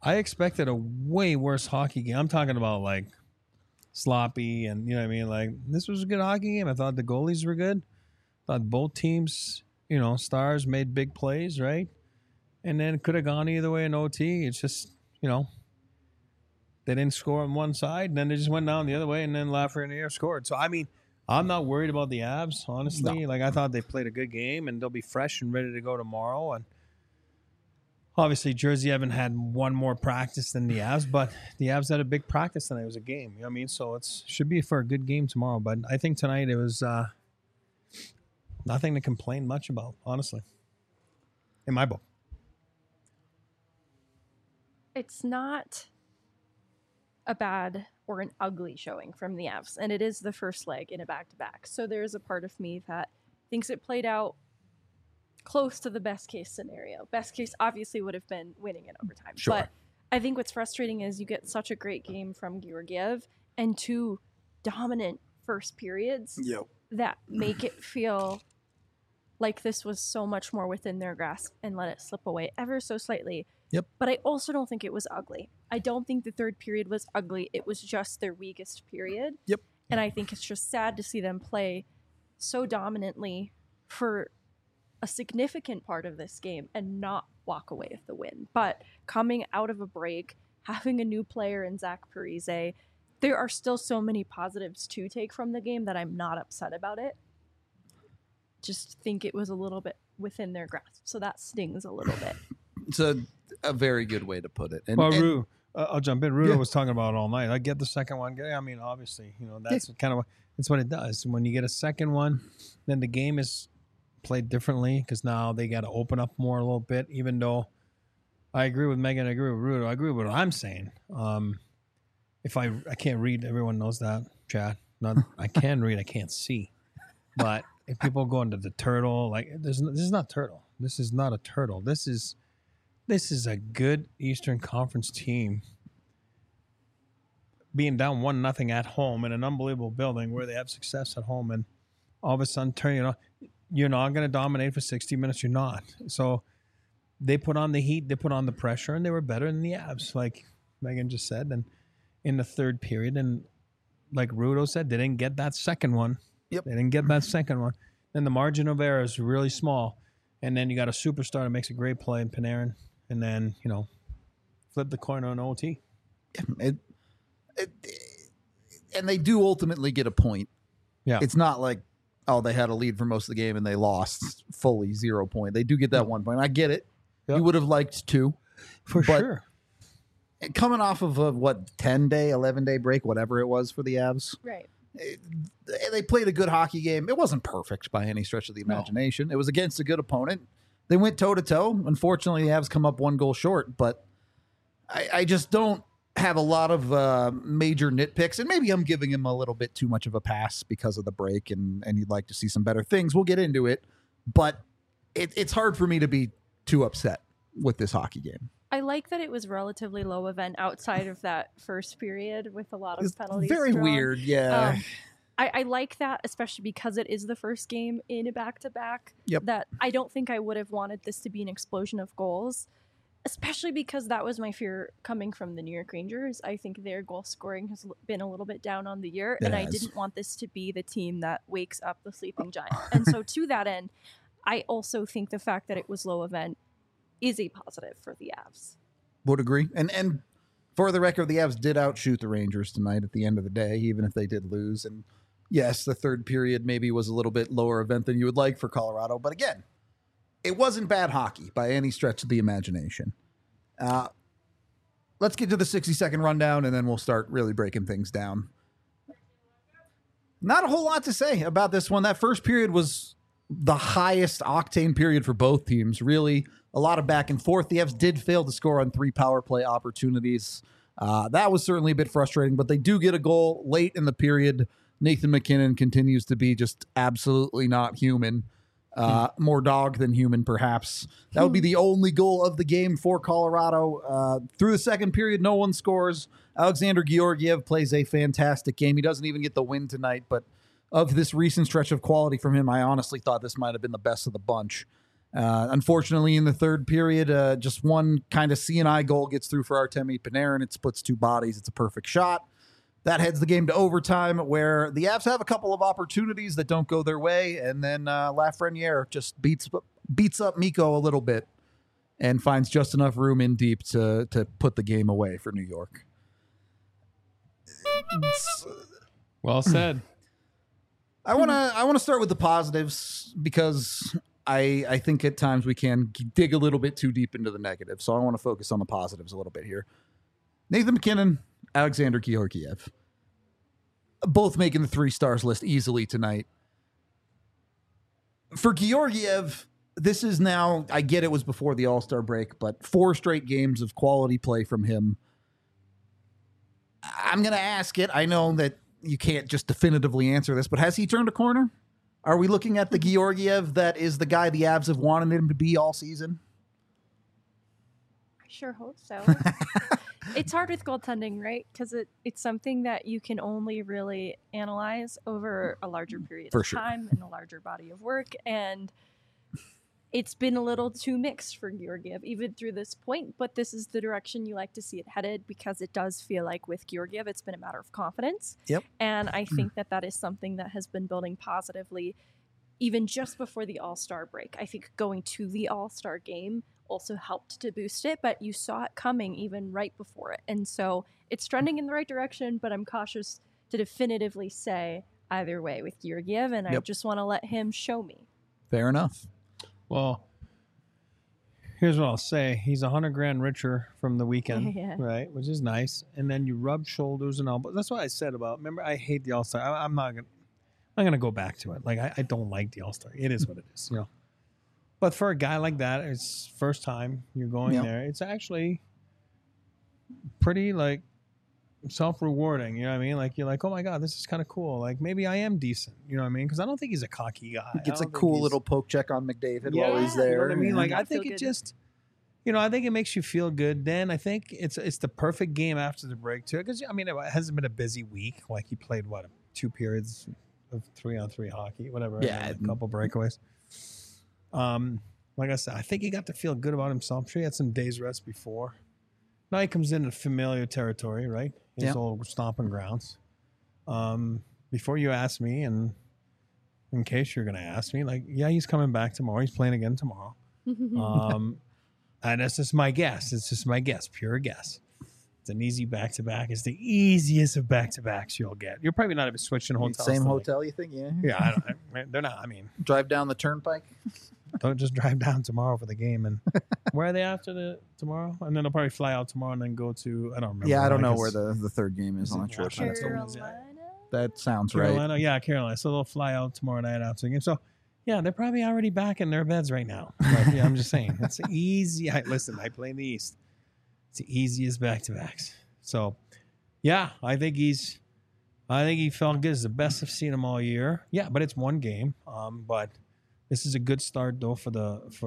I expected a way worse hockey game. I'm talking about like sloppy and you know what I mean. Like this was a good hockey game. I thought the goalies were good. Thought both teams, stars made big plays, right? And then it could have gone either way in OT. It's just they didn't score on one side, and then they just went down the other way, and then Lafreniere scored. So I mean, I'm not worried about the Avs, honestly. No. Like I thought they played a good game, and they'll be fresh and ready to go tomorrow. And obviously, Jersey haven't had one more practice than the Avs, but the Avs had a big practice tonight. It was a game. You know what I mean? So it should be for a good game tomorrow. But I think tonight it was nothing to complain much about, honestly, in my book. It's not a bad or an ugly showing from the Avs, and it is the first leg in a back-to-back. So there's a part of me that thinks it played out close to the best case scenario. Best case obviously would have been winning in overtime. Sure. But I think what's frustrating is you get such a great game from Georgiev and 2 dominant first periods that make it feel like this was so much more within their grasp and let it slip away ever so slightly. Yep. But I also don't think it was ugly. I don't think the third period was ugly. It was just their weakest period. Yep. And I think it's just sad to see them play so dominantly for a significant part of this game and not walk away with the win. But coming out of a break, having a new player in Zach Parise, there are still so many positives to take from the game that I'm not upset about it. Just think it was a little bit within their grasp. So that stings a little bit. It's a very good way to put it. Rue, I'll jump in. Rudo was talking about it all night. I get the second one. I mean, obviously, that's kind of it's what it does. When you get a second one, then the game is played differently because now they got to open up more a little bit. Even though I agree with Megan, I agree with Rudo, I agree with what I'm saying. If I can't read, everyone knows that, Chad. I can read, I can't see. But if people go into the turtle, like this is not turtle. This is not a turtle. This is a good Eastern Conference team being down 1-0 at home in an unbelievable building where they have success at home, and all of a sudden you're not going to dominate for 60 minutes. You're not. So they put on the heat, they put on the pressure, and they were better than the Avs, like Megan just said. And in the third period, and like Rudo said, they didn't get that second one. Yep. They didn't get that second one. Then the margin of error is really small. And then you got a superstar that makes a great play in Panarin. And then, flip the coin on OT. And they do ultimately get a point. Yeah. It's not like, they had a lead for most of the game and they lost fully 0 point. They do get that 1 point. I get it. Yep. You would have liked 2. For sure. Coming off of a, 10-day, 11-day break, whatever it was for the Avs. Right. They played a good hockey game. It wasn't perfect by any stretch of the imagination. No. It was against a good opponent. They went toe-to-toe. Unfortunately, the Avs come up 1 goal short, but I just don't have a lot of major nitpicks, and maybe I'm giving him a little bit too much of a pass because of the break, and you'd like to see some better things. We'll get into it, but it's hard for me to be too upset with this hockey game. I like that it was relatively low event outside of that first period with a lot of penalties. Very drawn. Weird, yeah. I like that, especially because it is the first game in a back-to-back. Yep. That I don't think I would have wanted this to be an explosion of goals, especially because that was my fear coming from the New York Rangers. I think their goal scoring has been a little bit down on the year, and I didn't want this to be the team that wakes up the sleeping giant. And so to that end, I also think the fact that it was low event is a positive for the Avs. Would agree. And for the record, the Avs did outshoot the Rangers tonight at the end of the day, even if they did lose. And yes, the third period maybe was a little bit lower event than you would like for Colorado. But again, it wasn't bad hockey by any stretch of the imagination. Let's get to the 60-second rundown, and then we'll start really breaking things down. Not a whole lot to say about this one. That first period was the highest octane period for both teams. Really, a lot of back and forth. The Avs did fail to score on 3 power play opportunities. That was certainly a bit frustrating, but they do get a goal late in the period. Nathan MacKinnon continues to be just absolutely not human. More dog than human, perhaps. That would be the only goal of the game for Colorado. Through the second period, no one scores. Alexander Georgiev plays a fantastic game. He doesn't even get the win tonight, but of this recent stretch of quality from him, I honestly thought this might have been the best of the bunch. Unfortunately, in the third period, just one kind of C&I goal gets through for Artemi Panarin. It splits two bodies. It's a perfect shot. That heads the game to overtime, where the Avs have a couple of opportunities that don't go their way, and then Lafreniere just beats up Mikko a little bit and finds just enough room in deep to put the game away for New York. Well said. I want to start with the positives because I think at times we can dig a little bit too deep into the negative. So I want to focus on the positives a little bit here. Nathan MacKinnon, Alexander Georgiev, both making the 3 stars list easily tonight. For Georgiev, this is now, I get it was before the All-Star break, but 4 straight games of quality play from him. I'm going to ask it. I know that you can't just definitively answer this, but has he turned a corner? Are we looking at the Georgiev that is the guy the Avs have wanted him to be all season? I sure hope so. It's hard with goaltending, right? Because it's something that you can only really analyze over a larger period of time and a larger body of work. And it's been a little too mixed for Georgiev, even through this point. But this is the direction you like to see it headed, because it does feel like with Georgiev, it's been a matter of confidence. Yep. And I think that is something that has been building positively even just before the All-Star break. I think going to the All-Star game also helped to boost it, but you saw it coming even right before it. And so it's trending in the right direction, but I'm cautious to definitively say either way with Georgiev, and I just want to let him show me. Fair enough. Well, here's what I'll say. He's $100,000 richer from the weekend, right? Which is nice. And then you rub shoulders and elbows. That's what I said about, remember, I hate the All-Star. I'm not going to go back to it. Like, I don't like the All-Star. It is what it is, you know. But for a guy like that, it's first time you're going there. It's actually pretty, like, self-rewarding, you know what I mean? Like, you're like, oh my God, this is kind of cool. Like, maybe I am decent, you know what I mean? Because I don't think he's a cocky guy. He gets a cool little poke check on McDavid while he's there. You know what I mean? Like, I think it just, you know, I think it makes you feel good. Then I think it's the perfect game after the break too. Because, I mean, it hasn't been a busy week. Like, he played, 2 periods of 3-on-3 hockey, whatever. Yeah. A couple breakaways. Like I said, I think he got to feel good about himself. I'm sure he had some days rest before. Now he comes into familiar territory, right? His old stomping grounds. Before you ask me, and in case you're going to ask me, like, yeah, he's coming back tomorrow. He's playing again tomorrow. And that's just my guess. It's just my guess, pure guess. It's an easy back-to-back. It's the easiest of back-to-backs you'll get. You're probably not even switching hotels. Same hotel, you think? Yeah. Yeah, they're not. I mean, drive down the turnpike. Don't just drive down tomorrow for the game. And where are they after tomorrow? And then they'll probably fly out tomorrow and then go to, I don't remember. Yeah, I don't know where the third game is on the trip. Carolina? That sounds Carolina? right. Yeah, Carolina. So they'll fly out tomorrow night after the game. So, yeah, they're probably already back in their beds right now. But, yeah, I'm just saying. It's easy. Listen, I play in the East. It's the easiest back-to-backs. So, yeah, I think he felt good. It's the best I've seen him all year. Yeah, but it's one game. But this is a good start though for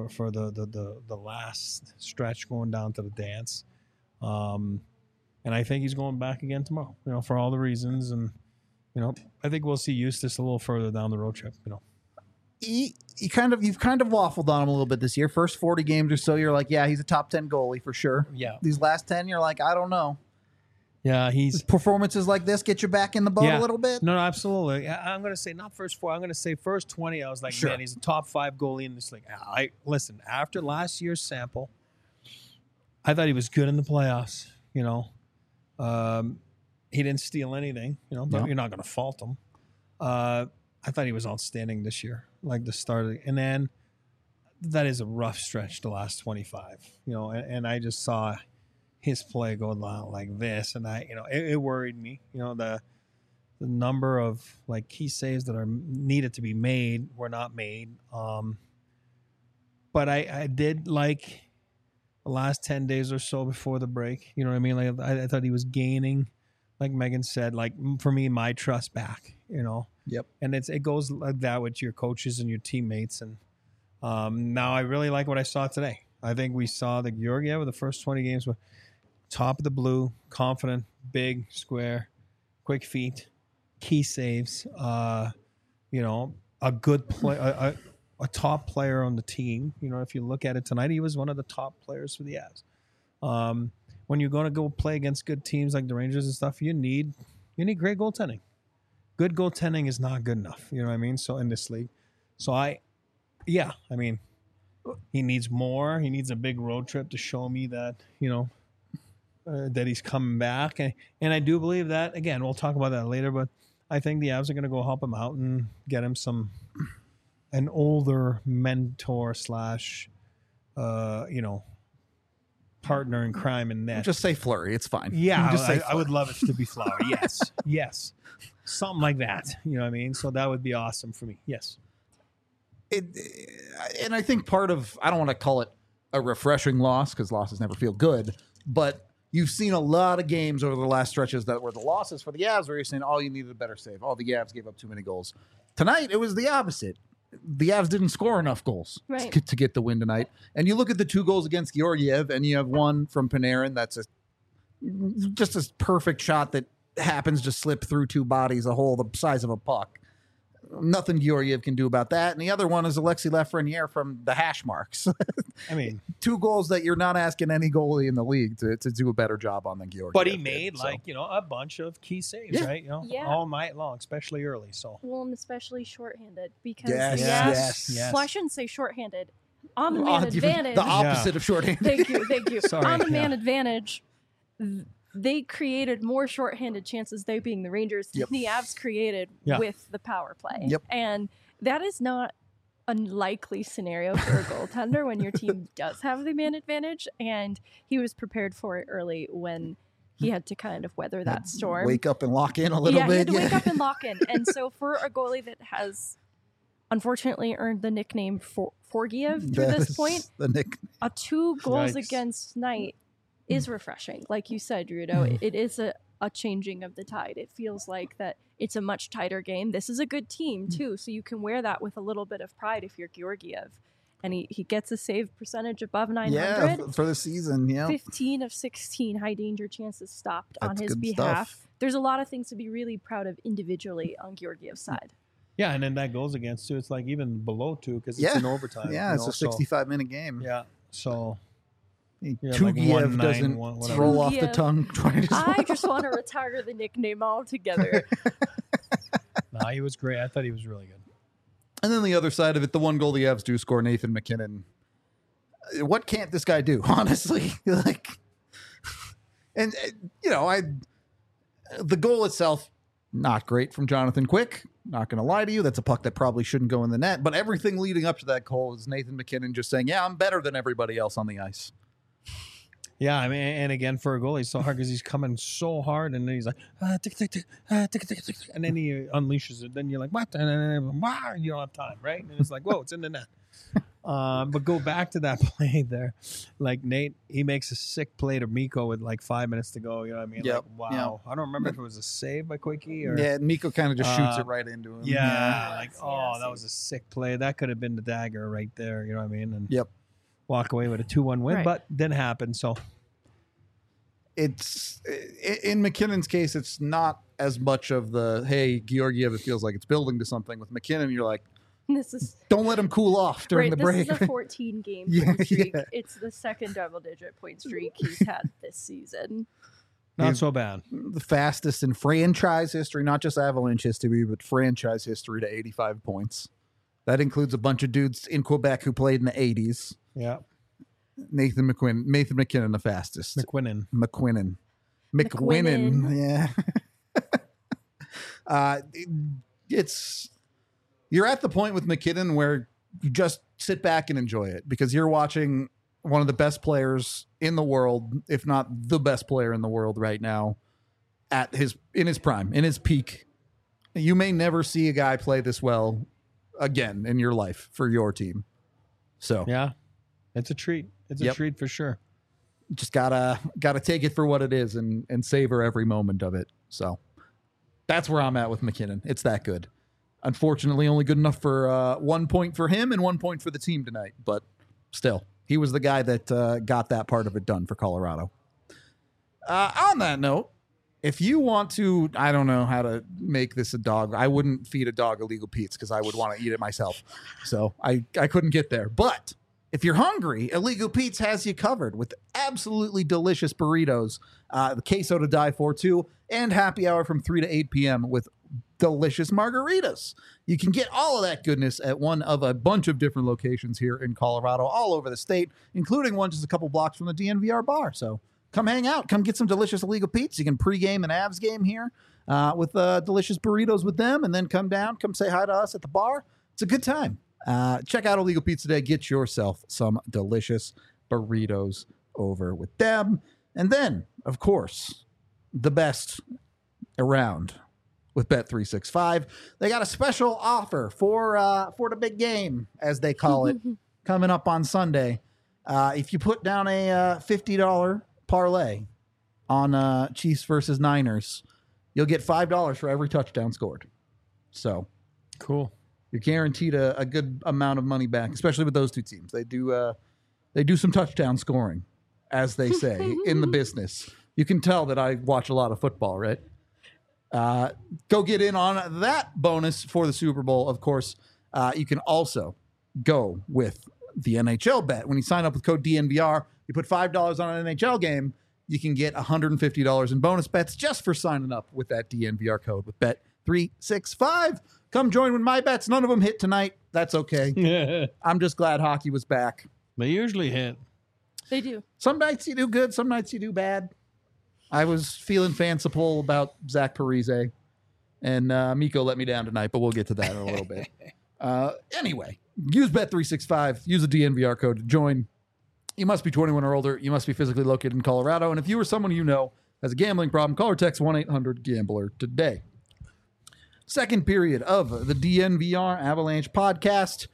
the last stretch going down to the dance. And I think he's going back again tomorrow, you know, for all the reasons. And, you know, I think we'll see Eustace a little further down the road trip, you know. You've kind of waffled on him a little bit this year. First 40 games or so, you're like, yeah, he's a top 10 goalie for sure. Yeah. These last 10, you're like, I don't know. Yeah, performances like this get you back in the boat a little bit. No, absolutely. I'm going to say not first 4. I'm going to say first 20. I was like, man, he's a top 5 goalie in this league. Listen, after last year's sample, I thought he was good in the playoffs. You know, he didn't steal anything. You know, but you're not going to fault him. I thought he was outstanding this year, like the start and then that is a rough stretch. The last 25. You know, and I just saw his play go down like this, and it worried me. You know, the number of like key saves that are needed to be made were not made. But I did like the last 10 days or so before the break. You know what I mean? Like I thought he was gaining, like Megan said, like for me, my trust back. You know. Yep. And it goes like that with your coaches and your teammates. And now I really like what I saw today. I think we saw the Georgiev with the first 20 games with top of the blue, confident, big, square, quick feet, key saves. You know, a good play, a top player on the team. You know, if you look at it tonight, he was one of the top players for the Avs. When you're going to go play against good teams like the Rangers and stuff, you need great goaltending. Good goaltending is not good enough. You know what I mean? So in this league, he needs more. He needs a big road trip to show me that, that he's coming back. And I do believe that, again, we'll talk about that later, but I think the Avs are going to go help him out and get him an older mentor / partner in crime in net. Just say Fleury. It's fine. Yeah, just I would love it to be Fleury. Yes. Something like that. You know what I mean? So that would be awesome for me. Yes. And I think part of, I don't want to call it a refreshing loss because losses never feel good, but you've seen a lot of games over the last stretches that were the losses for the Avs where you're saying, you needed a better save. The Avs gave up too many goals. Tonight, it was the opposite. The Avs didn't score enough goals to get the win tonight. And you look at the 2 goals against Georgiev, and you have one from Panarin that's just a perfect shot that happens to slip through 2 bodies, a hole the size of a puck. Nothing Georgiev can do about that. And the other one is Alexis Lafreniere from the hash marks. 2 goals that you're not asking any goalie in the league to do a better job on than Georgiev. But he made a bunch of key saves, right? All night long, especially early. So and especially shorthanded because yes. Well, I shouldn't say shorthanded. On the man advantage, the opposite of shorthanded. Thank you. Sorry, on the man advantage, they created more shorthanded chances, they being the Rangers, than the Avs created with the power play. Yep. And that is not a likely scenario for a goaltender when your team does have the man advantage. And he was prepared for it early when he had to kind of weather that storm. Wake up and lock in a little bit. He had to wake up and lock in. And so for a goalie that has unfortunately earned the nickname Forgiev through this point, a 2 goals against night is refreshing. Like you said, Rudo, it is a changing of the tide. It feels like that it's a much tighter game. This is a good team too, so you can wear that with a little bit of pride if you're Georgiev. And he gets a save percentage above 900. For the season, 15 of 16 high danger chances stopped on his behalf. Stuff. There's a lot of things to be really proud of individually on Georgiev's side. Yeah, and then that goes against 2. It's like even below 2 because it's in overtime. Yeah, it's a 65-minute game. Yeah, so... Tugiev doesn't roll off the tongue. I just want to retire the nickname altogether. No, he was great. I thought he was really good. And then the other side of it, the 1 goal the Avs do score, Nathan MacKinnon. What can't this guy do, honestly? The goal itself, not great from Jonathan Quick. Not going to lie to you. That's a puck that probably shouldn't go in the net. But everything leading up to that goal is Nathan MacKinnon just saying, I'm better than everybody else on the ice. Yeah, I mean, and again, for a goalie, it's so hard because he's coming so hard, and then he's like, tick, tick, tick, tick, tick, tick, and then he unleashes it. Then you're like, what? And then, wow, you don't have time, right? And it's like, whoa, it's in the net. But go back to that play there. Like Nate, he makes a sick play to Mikko with like 5 minutes to go. You know what I mean? Yep. Like, wow. Yep. I don't remember if it was a save by Quickie or... Yeah, Mikko kind of just shoots it right into him. Yeah, that was a sick play. That could have been the dagger right there. You know what I mean? And walk away with a 2-1 win, but didn't happen. So it's in MacKinnon's case, it's not as much of the Georgiev. It feels like it's building to something. With MacKinnon, you're like, don't let him cool off during the break. This is a 14-game point streak. Yeah. It's the second double-digit point streak he's had this season. Not so bad. The fastest in franchise history, not just Avalanche history, but franchise history to 85 points. That includes a bunch of dudes in Quebec who played in the 80s. Yeah. Nathan MacKinnon, the fastest. McQuinnan. Yeah. You're at the point with MacKinnon where you just sit back and enjoy it because you're watching one of the best players in the world, if not the best player in the world right now, in his prime, in his peak. You may never see a guy play this well again in your life for your team. So yeah, it's a treat. It's a treat for sure. Just gotta take it for what it is and savor every moment of it. So that's where I'm at with MacKinnon. It's that good. Unfortunately, only good enough for 1 point for him and 1 point for the team tonight. But still, he was the guy that got that part of it done for Colorado. On that note, If you want to, I don't know how to make this a dog. I wouldn't feed a dog illegal Pete's because I would want to eat it myself. So I couldn't get there. But if you're hungry, Illegal Pete's has you covered with absolutely delicious burritos, the queso to die for too, and happy hour from 3 to 8 p.m. with delicious margaritas. You can get all of that goodness at one of a bunch of different locations here in Colorado, all over the state, including one just a couple blocks from the DNVR bar. So come hang out. Come get some delicious Illegal Pete's. You can pregame an Avs game here with delicious burritos with them, and then come down, come say hi to us at the bar. It's a good time. Check out Illegal Pete's today. Get yourself some delicious burritos over with them. And then, of course, the best around with Bet365. They got a special offer for the big game, as they call it, coming up on Sunday. If you put down a $50 parlay on Chiefs versus Niners, you'll get $5 for every touchdown scored. So Cool. you're guaranteed a good amount of money back, especially with those two teams. They do some touchdown scoring, as they say, in the business. You can tell that I watch a lot of football, right? Go get in on that bonus for the Super Bowl. Of course, you can also go with the NHL bet. When you sign up with code DNVR, you put $5 on an NHL game, you can get $150 in bonus bets just for signing up with that DNVR code with Bet365. Come join with my bets. None of them hit tonight. That's okay. I'm just glad hockey was back. They usually hit. They do. Some nights you do good, some nights you do bad. I was feeling fanciful about Zach Parise, and Miko let me down tonight, but we'll get to that in a little bit. Anyway, use Bet365. Use the DNVR code to join. You must be 21 or older. You must be physically located in Colorado. And if you or someone you know has a gambling problem, call or text 1-800-GAMBLER today. Second period of the DNVR Avalanche podcast.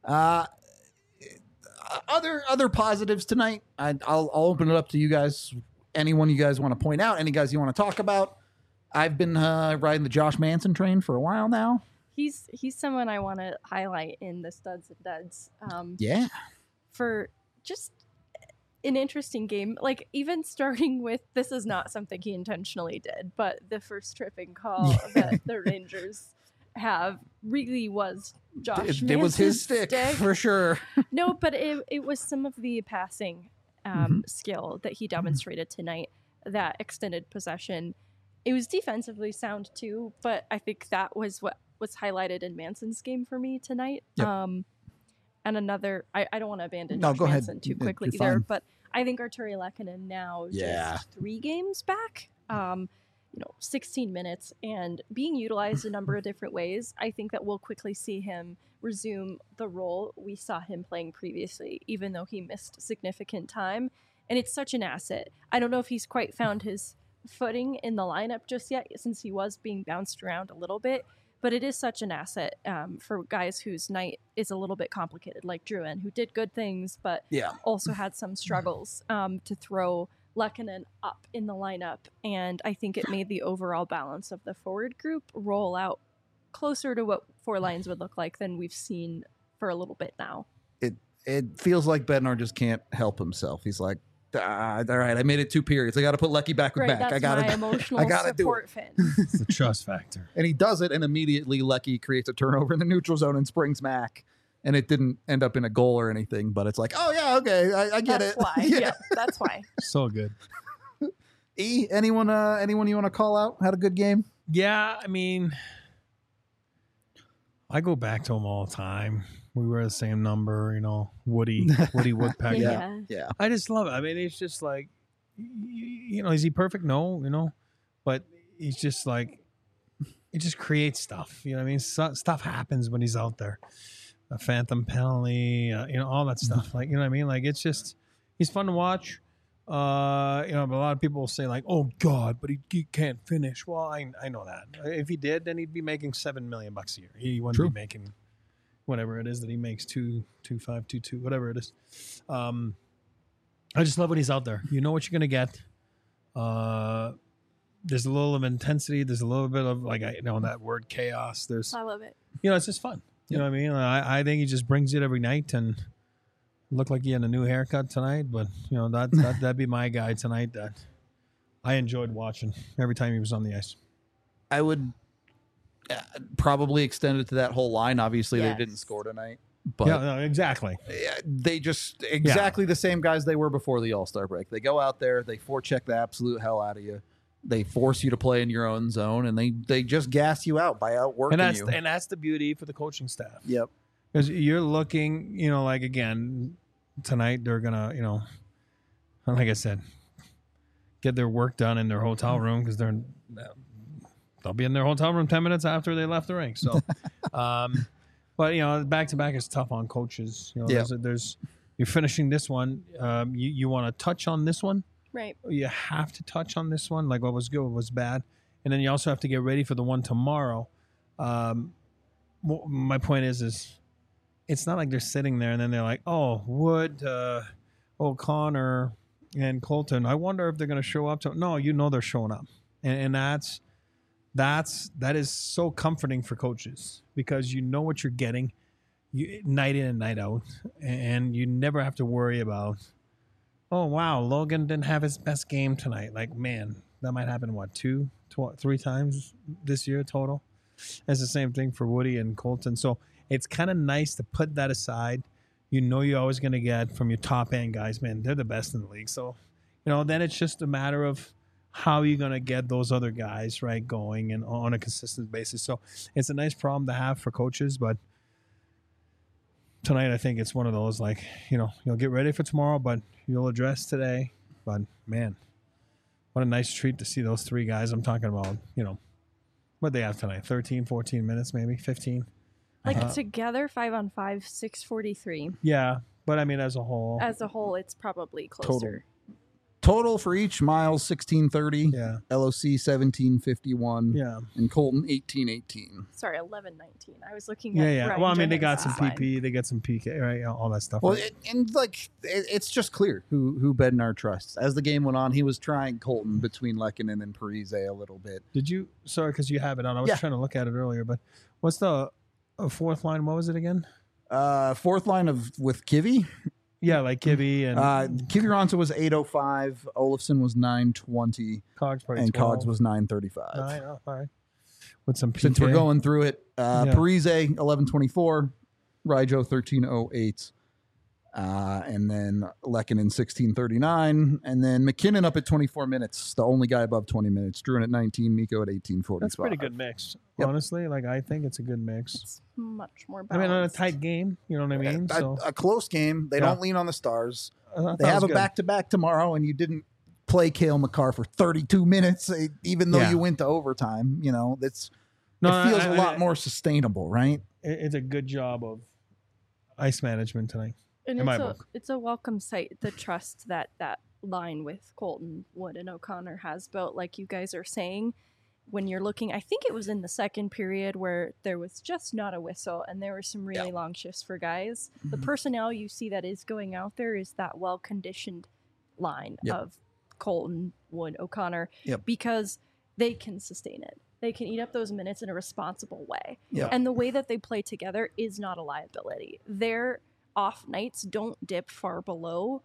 Other positives tonight. I'll open it up to you guys. Anyone you guys want to point out? Any guys you want to talk about? I've been riding the Josh Manson train for a while now. He's someone I want to highlight in the studs and duds. Yeah. For just an interesting game. Like, even starting with, this is not something he intentionally did, but the first tripping call that the Rangers have really was Josh It was his Manson's stick for sure. No, but it was some of the passing skill that he demonstrated tonight, that extended possession. It was defensively sound too, but I think that was what was highlighted in Manson's game for me tonight. Yep. And another, I don't want to abandon No, Josh go ahead. Manson too quickly You're either, fine. but I think Arturi Lehkonen now just 3 games back, 16 minutes and being utilized a number of different ways. I think that we'll quickly see him resume the role we saw him playing previously, even though he missed significant time. And it's such an asset. I don't know if he's quite found his footing in the lineup just yet, since he was being bounced around a little bit, but it is such an asset for guys whose night is a little bit complicated, like Drouin, who did good things, but also had some struggles to throw Lehkonen up in the lineup. And I think it made the overall balance of the forward group roll out closer to what 4 lines would look like than we've seen for a little bit now. It feels like Bednar just can't help himself. He's like, all right, I made it 2 periods. I got to put Lecky back with Right, back. that's my emotional I gotta do support it. fin. It's the trust factor. And he does it, and immediately Lecky creates a turnover in the neutral zone and springs Mac. And it didn't end up in a goal or anything, but it's like, oh yeah, okay, I get That's it. why. Yeah, that's why. So good. Anyone you want to call out had a good game? Yeah, I mean, I go back to him all the time. We wear the same number, Woody Woodpecker. Yeah. I just love it. I mean, it's just like, is he perfect? No, but he's just like, it just creates stuff. You know what I mean? Stuff happens when he's out there. A phantom penalty, all that stuff. Like, you know what I mean? Like, it's just, he's fun to watch. But a lot of people will say like, oh God, but he can't finish. Well, I know that. If he did, then he'd be making $7 million a year. He wouldn't be making whatever it is that he makes, 2.5, whatever it is. I just love when he's out there. You know what you're gonna get. There's a little of intensity. There's a little bit of that word chaos. I love it. It's just fun. You know what I mean? I think he just brings it every night, and looked like he had a new haircut tonight. But that'd be my guy tonight. That I enjoyed watching every time he was on the ice. I would probably extend it to that whole line. Obviously, Yes. they didn't score tonight, but Yeah, no, exactly. they just exactly the same guys they were before the All-Star break. They go out there, they forecheck the absolute hell out of you. They force you to play in your own zone, and they just gas you out by outworking you. And that's the beauty for the coaching staff. Yep. Because you're looking, like again, tonight they're gonna, like I said, get their work done in their hotel room because they'll be in their hotel room 10 minutes after they left the rink. So, but back to back is tough on coaches. There's you're finishing this one. You want to touch on this one. Right. You have to touch on this one, like what was good, what was bad, and then you also have to get ready for the one tomorrow. My point is it's not like they're sitting there and then they're like, oh, Wood, O'Connor, and Colton. I wonder if they're going to show up. No, they're showing up, and that is so comforting for coaches because you know what you're getting, night in and night out, and you never have to worry about, oh wow, Logan didn't have his best game tonight. Like, man, that might happen 3 times this year total. It's the same thing for Woody and Colton. So it's kind of nice to put that aside. You're always going to get from your top end guys, man, they're the best in the league. So, then it's just a matter of how you're going to get those other guys right going and on a consistent basis. So it's a nice problem to have for coaches, but tonight I think it's one of those, like, you'll get ready for tomorrow, but you'll address today. But man, what a nice treat to see those 3 guys I'm talking about. What they have tonight, 13, 14 minutes, maybe 15. Like together, 5-on-5, 6:43. Yeah, but I mean, as a whole, It's probably closer. Total for each, Miles 1630, yeah, LOC 1751, yeah, and Colton 1818. Sorry, 11-19. I was looking at yeah. Ryan Well, I mean, they got some Johansson's line. PP, they got some PK, right? All that stuff. Well, right? it's just clear who Bednar trusts. As the game went on, he was trying Colton between Lehkonen and Parise a little bit. Did you? Sorry, because you have it on. I was trying to look at it earlier, but what's the fourth line? What was it again? Fourth line with Kivy. Yeah, like Kibby and Kivy Ronsa was 805, Olofsson was 920, Cogs probably and 12. Cogs was 935. All right. With some PK. Since we're going through it, Parise 1124, Ryjo 1308, and then Lehkonen 1639, and then McKinnon up at 24 minutes, the only guy above 20 minutes. Druin at 19, Mikko at 1845. That's a pretty good mix. Yep. Honestly, like I think it's a good mix. It's much more I balanced. mean, on a tight game, you know what I mean? So A close game. They Yeah. don't lean on the stars. I thought They it have was a good. back-to-back tomorrow, and you didn't play Cale Makar for 32 minutes, even though Yeah. you went to overtime. It No, feels I- a lot more sustainable, right? It's a good job of ice management tonight. And in my book. it's a welcome sight, the trust that line with Colton, Wood, and O'Connor has built. Like you guys are saying, when you're looking, I think it was in the second period where there was just not a whistle and there were some really long shifts for guys. The Mhm. personnel you see that is going out there is that well-conditioned line Yep. of Colton, Wood, O'Connor, Yep. because they can sustain it. They can eat up those minutes in a responsible way. Yeah. And the way that they play together is not a liability. Their off nights don't dip far below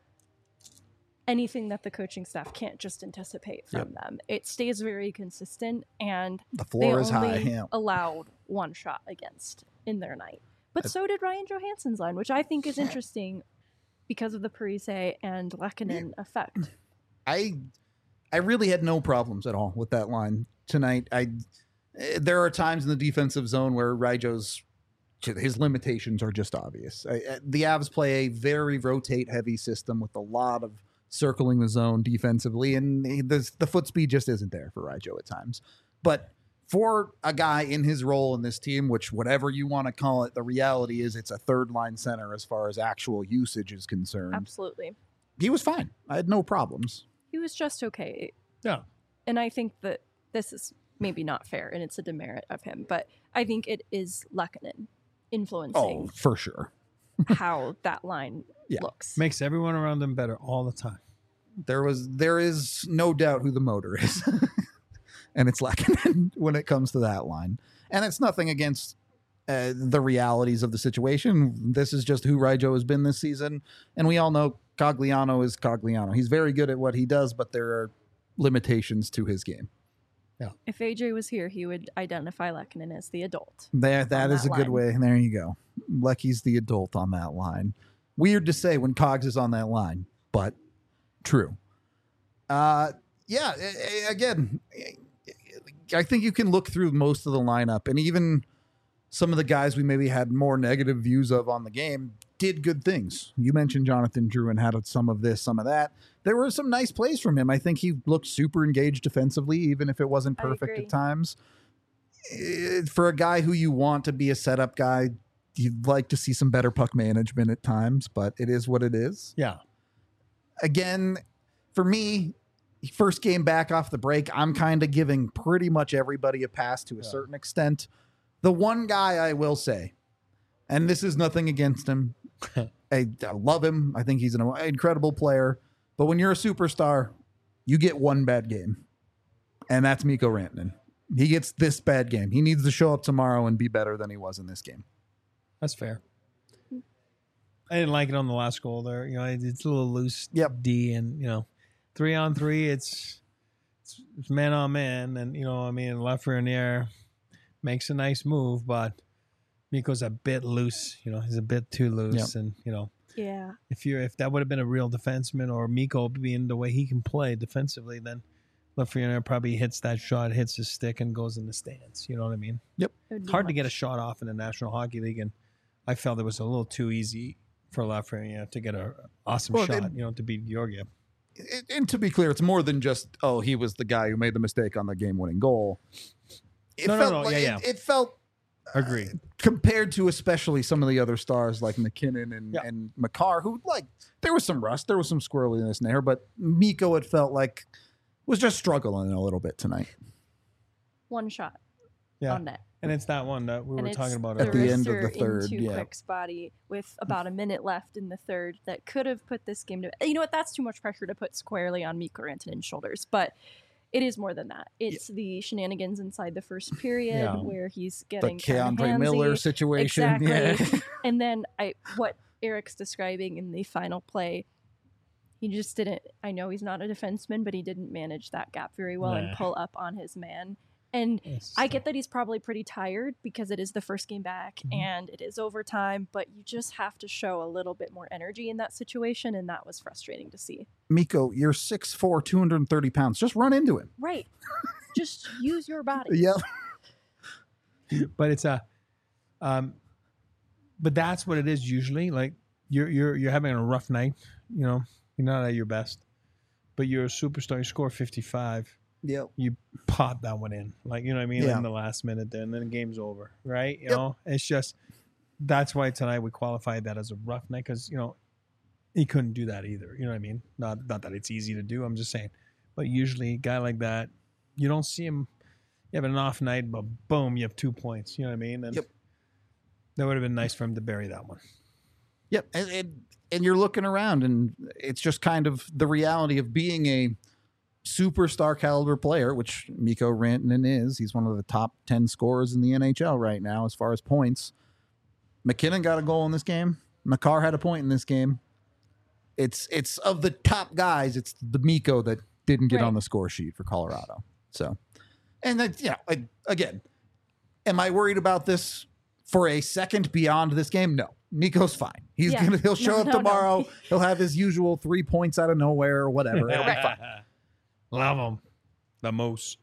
anything that the coaching staff can't just anticipate from them. It stays very consistent, and The they floor is only high. Yeah. allowed one shot against in their night. But so did Ryan Johansson's line, which I think is interesting because of the Parise and Lehkonen effect. I really had no problems at all with that line tonight. There are times in the defensive zone where Ryjo's his limitations are just obvious. The Avs play a very rotate heavy system with a lot of circling the zone defensively, and the foot speed just isn't there for Ryjo at times. But for a guy in his role in this team, which whatever you want to call it, the reality is it's a third line center as far as actual usage is concerned. Absolutely. He was fine. I had no problems. He was just okay. Yeah. And I think that this is maybe not fair and it's a demerit of him, but I think it is Lehkonen influencing For sure. how that line Yeah. looks. Makes everyone around them better all the time. There is no doubt who the motor is. And it's Lehkonen when it comes to that line. And it's nothing against the realities of the situation. This is just who Ryjo has been this season. And we all know Cogliano is Cogliano. He's very good at what he does, but there are limitations to his game. If AJ was here, he would identify Lehkonen as the adult. That is a good line. way. There you go. Lecky's the adult on that line. Weird to say when Cogs is on that line, but true. Again, I think you can look through most of the lineup, and even some of the guys we maybe had more negative views of on the game did good things. You mentioned Jonathan Drouin had some of this, some of that. There were some nice plays from him. I think he looked super engaged defensively, even if it wasn't perfect at times. For a guy who you want to be a setup guy, you'd like to see some better puck management at times, but it is what it is. Yeah. Again, for me, first game back off the break, I'm kind of giving pretty much everybody a pass to a certain extent. The one guy I will say, and this is nothing against him, I love him. I think he's an incredible player. But when you're a superstar, you get one bad game. And that's Mikko Rantanen. He gets this bad game. He needs to show up tomorrow and be better than he was in this game. That's fair. I didn't like it on the last goal there. You know, it's a little loose D, and, you know, 3-on-3, it's man on man. And, you know, I mean, Lafreniere makes a nice move, but Mikko's a bit loose. You know, he's a bit too loose. And, you know, if that would have been a real defenseman, or Mikko being the way he can play defensively, then Lafreniere probably hits that shot, hits his stick, and goes in the stands. You know what I mean? Yep. Hard to get a shot off in the National Hockey League, and I felt it was a little too easy for Lafreniere to get an awesome shot, you know, to beat Georgiev. And to be clear, it's more than just, he was the guy who made the mistake on the game-winning goal. It felt agree, compared to especially some of the other stars like McKinnon and Makar, who, like, there was some rust, there was some squirreliness in there, but Mikko, it felt like, was just struggling a little bit tonight. One shot on net. And it's that one that we were talking about at the end of the third. Into Quick's body with about a minute left in the third that could have put this game to... You know what? That's too much pressure to put squarely on Mikko Rantanen's shoulders. But it is more than that. It's the shenanigans inside the first period where he's getting the Keandre Miller situation. Exactly. Yeah. And then what Eric's describing in the final play, he just didn't... I know he's not a defenseman, but he didn't manage that gap very well and pull up on his man. And I get that he's probably pretty tired because it is the first game back and it is overtime, but you just have to show a little bit more energy in that situation, and that was frustrating to see. Mikko, you're 6'4", 230 pounds. Just run into him. Right. Just use your body. Yeah. But it's but that's what it is usually. Like you're having a rough night, you know, you're not at your best, but you're a superstar. You score 55. Yep. You pop that one in, like, you know what I mean, in the last minute there, and then the game's over, right? You know, it's just, that's why tonight we qualified that as a rough night, because, you know, he couldn't do that either. You know what I mean? Not that it's easy to do. I'm just saying, but usually a guy like that, you don't see him. You have an off night, but boom, you have 2 points. You know what I mean? And that would have been nice for him to bury that one. Yep, and you're looking around, and it's just kind of the reality of being a superstar caliber player, which Mikko Rantanen is. He's one of the top 10 scorers in the NHL right now as far as points. McKinnon got a goal in this game. Makar had a point in this game. It's of the top guys, it's the Mikko that didn't get on the score sheet for Colorado. So, and that, again, am I worried about this for a second beyond this game? No. Mikko's fine. He'll show up tomorrow. No. He'll have his usual 3 points out of nowhere or whatever. It'll be fine. Love them the most.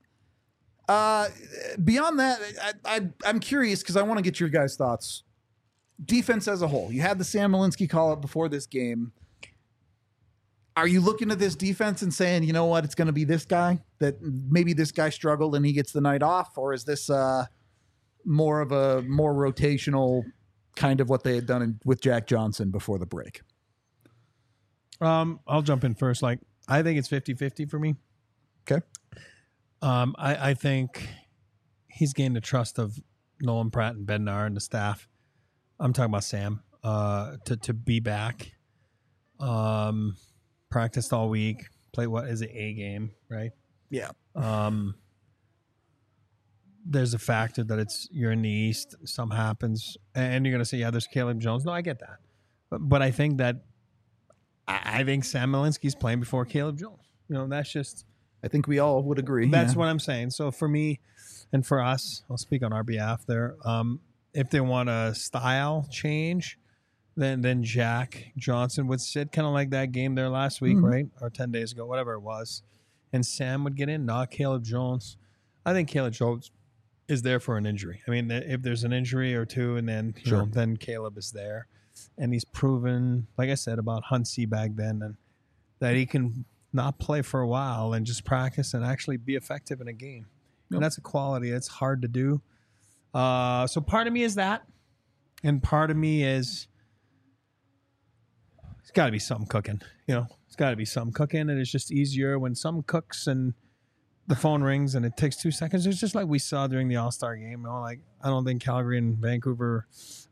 Beyond that, I'm curious because I want to get your guys' thoughts. Defense as a whole. You had the Sam Malinsky call up before this game. Are you looking at this defense and saying, you know what, it's going to be this guy, that maybe this guy struggled and he gets the night off? Or is this more of a more rotational kind of what they had done with Jack Johnson before the break? I'll jump in first. Like, I think it's 50-50 for me. Okay. I think he's gained the trust of Nolan Pratt and Bednar and the staff. I'm talking about Sam, to be back. Practiced all week. Played what is it, A game, right? Yeah. There's a factor that you're in the East. Something happens, and you're gonna say, yeah, there's Caleb Jones. No, I get that, but I think that I think Sam Malinsky's playing before Caleb Jones. You know, that's just I think we all would agree. That's what I'm saying. So for me and for us, I'll speak on our behalf there. If they want a style change, then Jack Johnson would sit kind of like that game there last week, right? Or 10 days ago, whatever it was. And Sam would get in, not Caleb Jones. I think Caleb Jones is there for an injury. I mean, if there's an injury or two, and then you know, then Caleb is there. And he's proven, like I said, about Huntsy back then, and that he can not play for a while and just practice and actually be effective in a game. And that's a quality. It's hard to do. So part of me is that. And part of me is it's got to be something cooking. You know, it's got to be something cooking. And it's just easier when something cooks and the phone rings and it takes 2 seconds. It's just like we saw during the All-Star game. You know, like I don't think Calgary and Vancouver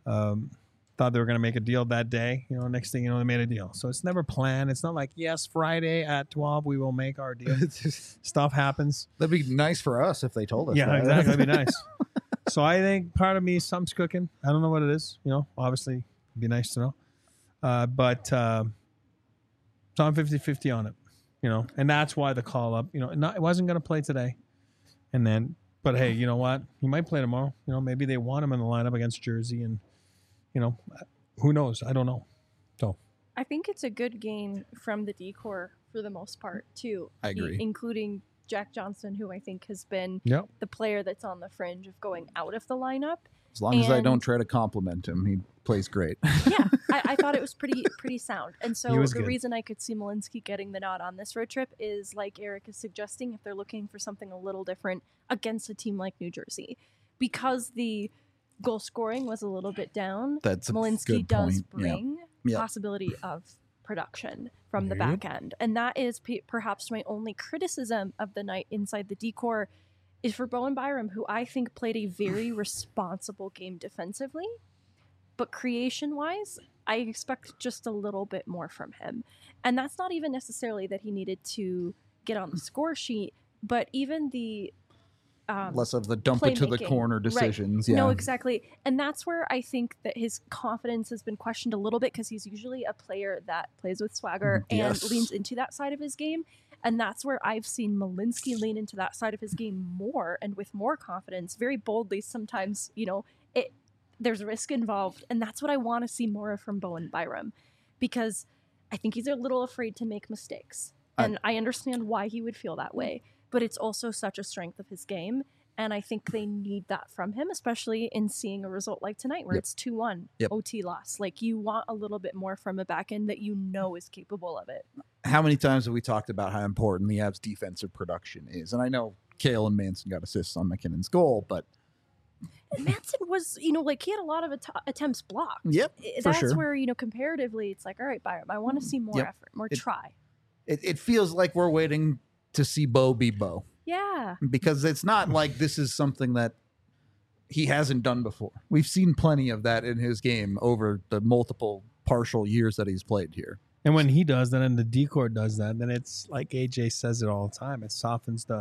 thought they were going to make a deal that day. You know, next thing you know, they made a deal. So it's never planned. It's not like, yes, Friday at 12, we will make our deal. Stuff happens. That'd be nice for us if they told us. Yeah, that. exactly. That'd be nice. So I think part of me, something's cooking. I don't know what it is. You know, obviously, it'd be nice to know. But so I'm 50-50 on it. You know, and that's why the call up, you know, it wasn't going to play today. And then, but hey, you know what? He might play tomorrow. You know, maybe they want him in the lineup against Jersey, and you know, who knows? I don't know. So I think it's a good game from the decor for the most part too. I agree. Including Jack Johnson, who I think has been Yep. the player that's on the fringe of going out of the lineup. As long as I And- don't try to compliment him, he plays great. Yeah, I thought it was pretty sound. And He so was the good. reason I could see Malinsky getting the nod on this road trip is, like Eric is suggesting, if they're looking for something a little different against a team like New Jersey. Because the goal scoring was a little bit down, That's a Malinsky good does point. Yeah. bring Yeah. possibility of production from the Yep. back end. And that is perhaps my only criticism of the night inside the decor is for Bowen Byram, who I think played a very responsible game defensively. But creation-wise, I expect just a little bit more from him. And that's not even necessarily that he needed to get on the score sheet, but even the Less of the dump it to the playmaking. corner Right. decisions. Yeah. No, exactly. And that's where I think that his confidence has been questioned a little bit, because he's usually a player that plays with swagger Yes. and leans into that side of his game. And that's where I've seen Malinsky lean into that side of his game more and with more confidence, very boldly. Sometimes, you know, there's risk involved. And that's what I want to see more of from Bowen Byram, because I think he's a little afraid to make mistakes. And I understand why he would feel that way, but it's also such a strength of his game. And I think they need that from him, especially in seeing a result like tonight where Yep. it's 2-1 Yep. OT loss. Like, you want a little bit more from a back end that you know is capable of it. How many times have we talked about how important the Avs' defensive production is? And I know Kale and Manson got assists on McKinnon's goal, but And Manson was, you know, like, he had a lot of attempts blocked. yep, for That's sure. where, you know, comparatively, it's like, all right, Byram, I want to see more Yep. effort, more It- try. It feels like we're waiting to see Bo be Bo, Yeah. because it's not like this is something that he hasn't done before. We've seen plenty of that in his game over the multiple partial years that he's played here. And when he does that and the decor does that, then it's like AJ says it all the time. It softens the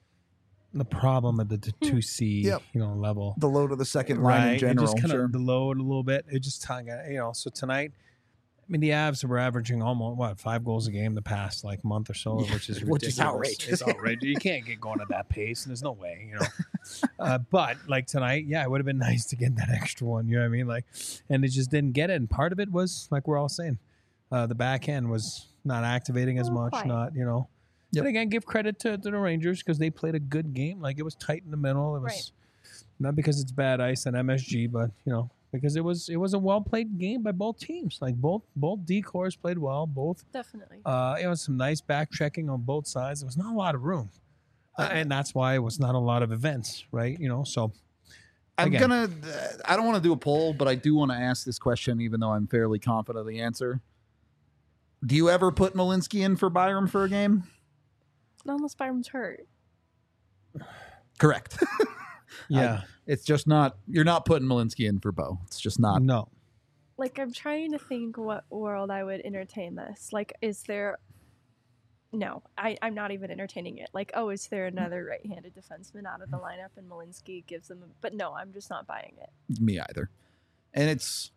problem at the 2C Yep. you know, level. The load of the second line in It general. just kind Sure. of the load a little bit. It just you know. So tonight, I mean, the Avs were averaging almost 5 goals a game the past like month or so, which is ridiculous. Which is outrageous. It's outrageous. You can't get going at that pace, and there's no way, you know. But like tonight, yeah, it would have been nice to get that extra one. You know what I mean? Like, and it just didn't get it. And part of it was like we're all saying, the back end was not activating as much. Quiet. Not, you know. Yep. But again, give credit to the Rangers because they played a good game. Like, it was tight in the middle. It was Right. not because it's bad ice and MSG, but you know, because it was a well played game by both teams. Like both decors played well. Both Definitely. it was some nice back checking on both sides. There was not a lot of room, and that's why it was not a lot of events, right? You know, so I again. don't want to do a poll, but I do want to ask this question, even though I'm fairly confident of the answer. Do you ever put Malinsky in for Byram for a game? Not unless Byram's hurt. Correct. yeah, It's just not, you're not putting Malinsky in for Bo. It's just not. no, Like, I'm trying to think what world I would entertain this. Like, is there... No, I'm not even entertaining it. Like, oh, is there another right-handed defenseman out of the lineup and Malinsky gives them... But no, I'm just not buying it. Me either. And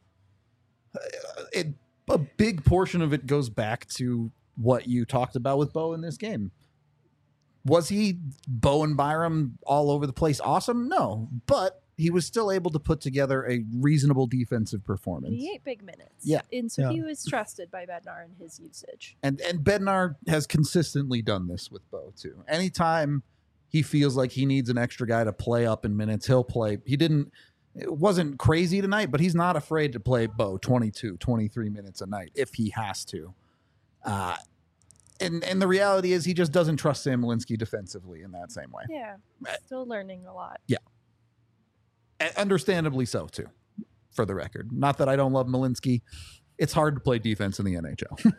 a big portion of it goes back to what you talked about with Bo in this game. Was he Bowen Byram all over the place awesome? No, but he was still able to put together a reasonable defensive performance. He ate big minutes. Yeah. And so Yeah. he was trusted by Bednar in his usage. And Bednar has consistently done this with Bo too. Anytime he feels like he needs an extra guy to play up in minutes, he'll play. It wasn't crazy tonight, but he's not afraid to play Bo 22, 23 minutes a night if he has to. And the reality is he just doesn't trust Sam Malinsky defensively in that same way. Yeah. Still learning a lot. And understandably so, too, for the record. Not that I don't love Malinsky. It's hard to play defense in the NHL.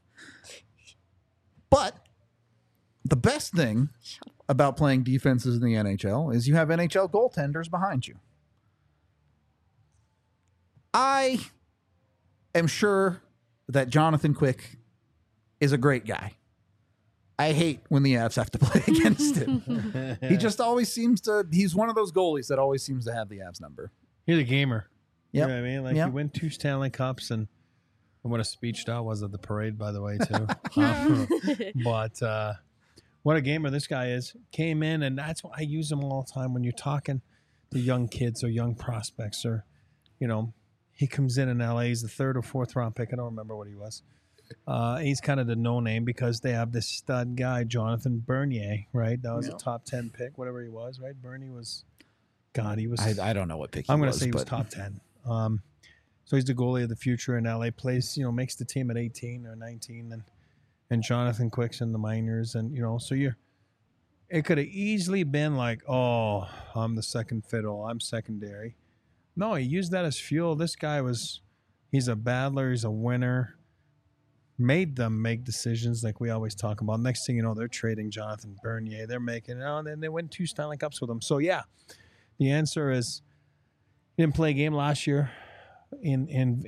But the best thing about playing defenses in the NHL is you have NHL goaltenders behind you. I am sure that Jonathan Quick is a great guy. I hate when the Avs have to play against him. He just always seems to, he's one of those goalies that always seems to have the Avs number. He's a gamer. Yep. You know what I mean? Like, Yep. he won 2 Stanley Cups, and what a speech that was at the parade, by the way, too. But what a gamer this guy is. Came in, and that's why I use him all the time when you're talking to young kids or young prospects, or, you know, he comes in LA. He's the 3rd or 4th round pick. I don't remember what he was. He's kind of the no name because they have this stud guy, Jonathan Bernier, right? That was a top 10 pick, whatever he was, right? Bernie was, God, he was. I don't know what pick he I'm going to was, say he was but top 10. So he's the goalie of the future in LA. Plays, you know, makes the team at 18 or 19, and Jonathan Quick's in the minors, and you know, so it could have easily been like, oh, I'm the second fiddle, I'm secondary. No, he used that as fuel. This guy he's a battler, he's a winner. Made them make decisions like we always talk about. Next thing you know, they're trading Jonathan Bernier. They're making, and then they win 2 Stanley Cups with him. So yeah, the answer is he didn't play a game last year in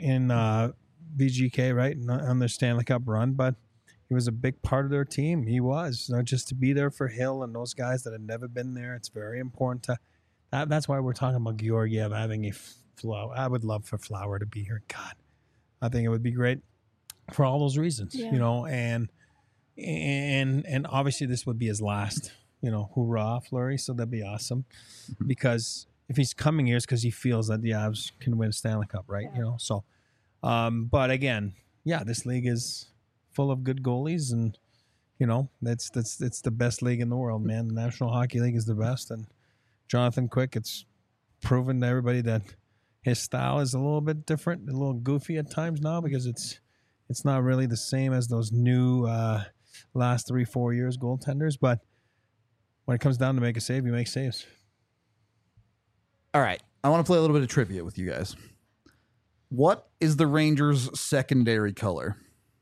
VGK, right, on their Stanley Cup run, but he was a big part of their team. He was, not just to be there for Hill and those guys that had never been there. It's very important to. That's why we're talking about Georgiev having a Flower. I would love for Flower to be here. God, I think it would be great for all those reasons, Yeah. you know, and obviously this would be his last, you know, hoorah, Fleury. So that'd be awesome because if he's coming here, it's because he feels that the Avs can win a Stanley Cup, right? Yeah. You know, so, but again, yeah, this league is full of good goalies, and you know, it's the best league in the world, man. The National Hockey League is the best, and Jonathan Quick, it's proven to everybody that his style is a little bit different, a little goofy at times now because it's not really the same as those new last 3-4 years goaltenders. But when it comes down to make a save, you make saves. all right. I want to play a little bit of trivia with you guys. What is the Rangers' secondary color?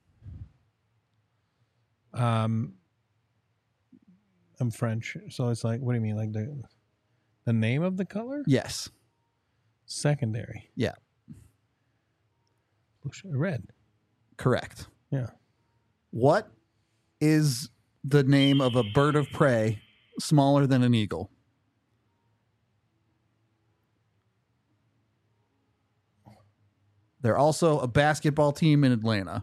I'm French, so it's like, what do you mean, like the name of the color? Yes. Secondary. Yeah. Red. Correct. Yeah. What is the name of a bird of prey smaller than an eagle? They're also a basketball team in Atlanta.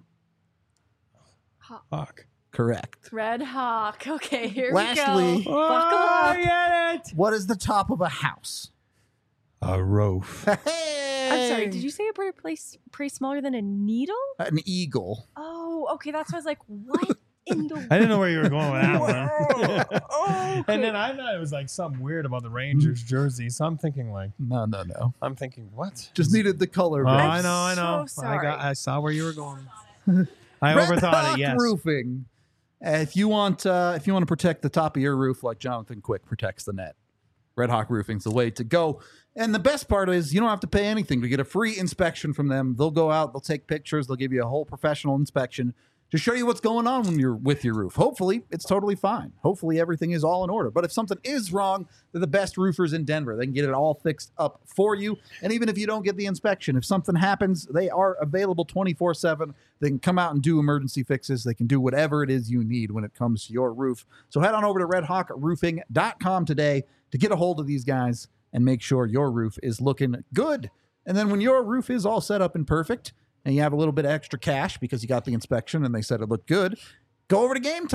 Hawk. Correct. Red Hawk. Okay, here Lastly- we go. Buckle up. get it. What is the top of a house? A roof. I'm sorry, did you say a bird of prey smaller than a needle? An eagle. Oh, okay. That's why I was like, what in the I didn't know where you were going with that one. Oh, And then I thought it was like something weird about the Rangers jersey. So I'm thinking No. I'm thinking, what? Just needed the color. Oh, bro. I know. so sorry. I saw where you were going. I Red overthought Hawk it. Yes. Roofing. If you want to protect the top of your roof like Jonathan Quick protects the net, Red Hawk Roofing's the way to go. And the best part is you don't have to pay anything to get a free inspection from them. They'll go out, they'll take pictures, they'll give you a whole professional inspection to show you what's going on when you're with your roof. Hopefully, it's totally fine. Hopefully, everything is all in order. But if something is wrong, they're the best roofers in Denver. They can get it all fixed up for you. And even if you don't get the inspection, if something happens, they are available 24/7. They can come out and do emergency fixes. They can do whatever it is you need when it comes to your roof. So head on over to redhawkroofing.com today to get a hold of these guys and make sure your roof is looking good. And then when your roof is all set up and perfect, and you have a little bit of extra cash because you got the inspection and they said it looked good, go over to Game Time.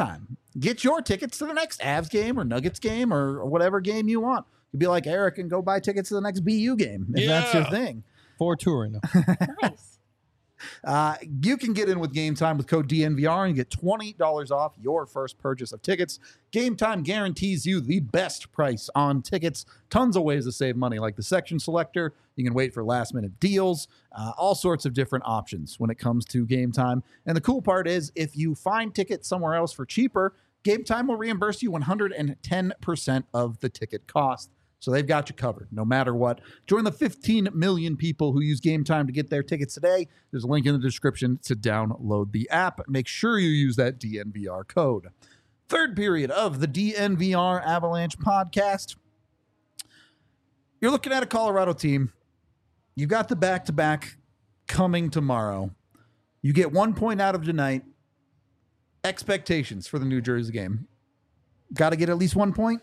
get your tickets to the next Avs game or Nuggets game or whatever game you want. You'd be like Eric and go buy tickets to the next BU game if that's your thing. 4-2 right now. Nice. You can get in with Game Time with code DNVR and get $20 off your first purchase of tickets. Game Time guarantees you the best price on tickets. Tons of ways to save money, like the section selector. You can wait for last-minute deals. All sorts of different options when it comes to Game Time. And the cool part is, if you find tickets somewhere else for cheaper, Game Time will reimburse you 110% of the ticket cost. So they've got you covered no matter what. Join the 15 million people who use Game Time to get their tickets today. There's a link in the description to download the app. Make sure you use that DNVR code. Third period of the DNVR Avalanche podcast. You're looking at a Colorado team. You've got the back-to-back coming tomorrow. You get 1 point out of tonight. Expectations for the New Jersey game. Got to get at least 1 point.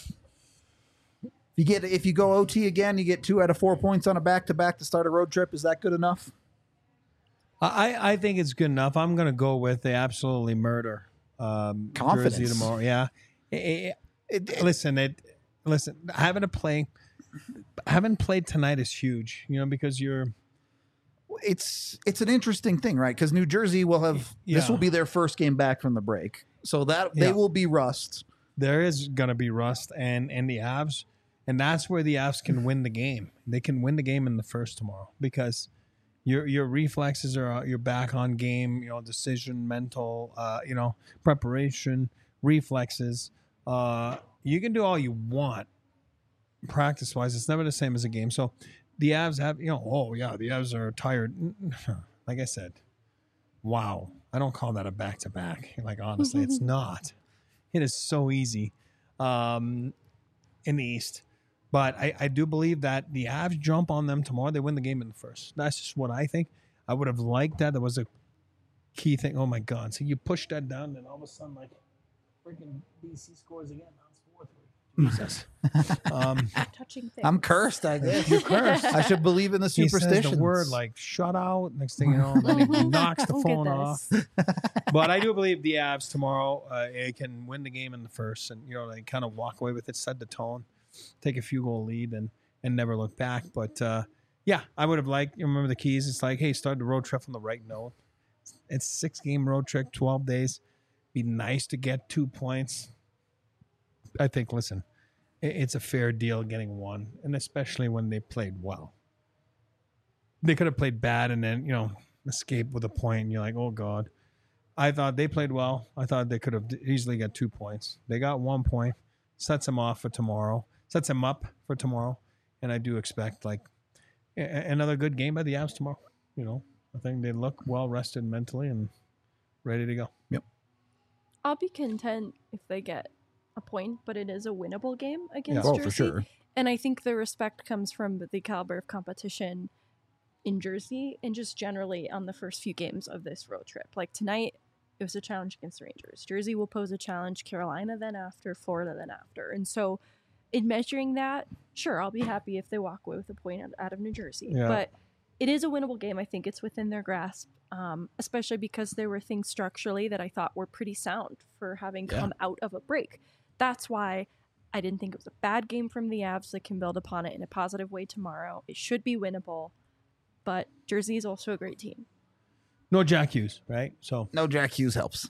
If you go OT again, you get 2 out of 4 points on a back-to-back to start a road trip. Is that good enough? I think it's good enough. I'm going to go with the absolutely murder Confidence Jersey tomorrow. Yeah. Listen, having played tonight is huge, because you're. It's an interesting thing, right? Because New Jersey will have this will be their first game back from the break, so that they will be rust. There is going to be rust, and the Avs. And that's where the Avs can win the game. They can win the game in the first tomorrow because your reflexes are you're back on game. Decision, mental, preparation, reflexes. You can do all you want practice wise. It's never the same as a game. So the Avs have the Avs are tired. Like I said, wow. I don't call that a back to back. Like honestly, it's not. It is so easy in the East. But I do believe that the Avs jump on them tomorrow. They win the game in the first. That's just what I think. I would have liked that. That was a key thing. Oh, my God. So you push that down, and all of a sudden, freaking BC scores again. Now it's 4-3. Jesus. Touching things. I'm cursed, I guess. You're cursed. I should believe in the superstitions. He says the word, shut out. Next thing you know, then he knocks the phone off. But I do believe the Avs tomorrow can win the game in the first and, they kind of walk away with it, set the tone. Take a few goal lead and never look back. But I would have liked. Remember the keys. It's like, hey, start the road trip on the right note. It's 6-game road trip, 12 days. Be nice to get 2 points. I think. Listen, it's a fair deal getting 1, and especially when they played well. They could have played bad and then escape with a point. And you're like, oh God. I thought they played well. I thought they could have easily got 2 points. They got 1 point. Sets them off for tomorrow. Sets them up for tomorrow. And I do expect another good game by the Avs tomorrow. I think they look well rested mentally and ready to go. Yep. I'll be content if they get a point, but it is a winnable game against Jersey. Jersey. For sure. And I think the respect comes from the caliber of competition in Jersey and just generally on the first few games of this road trip. Like tonight, it was a challenge against the Rangers. Jersey will pose a challenge, Carolina then after, Florida then after. And so in measuring that, sure, I'll be happy if they walk away with a point out of New Jersey. Yeah. But it is a winnable game. I think it's within their grasp, especially because there were things structurally that I thought were pretty sound for having come out of a break. That's why I didn't think it was a bad game from the Avs that can build upon it in a positive way tomorrow. It should be winnable, but Jersey is also a great team. No Jack Hughes, right? So no Jack Hughes helps.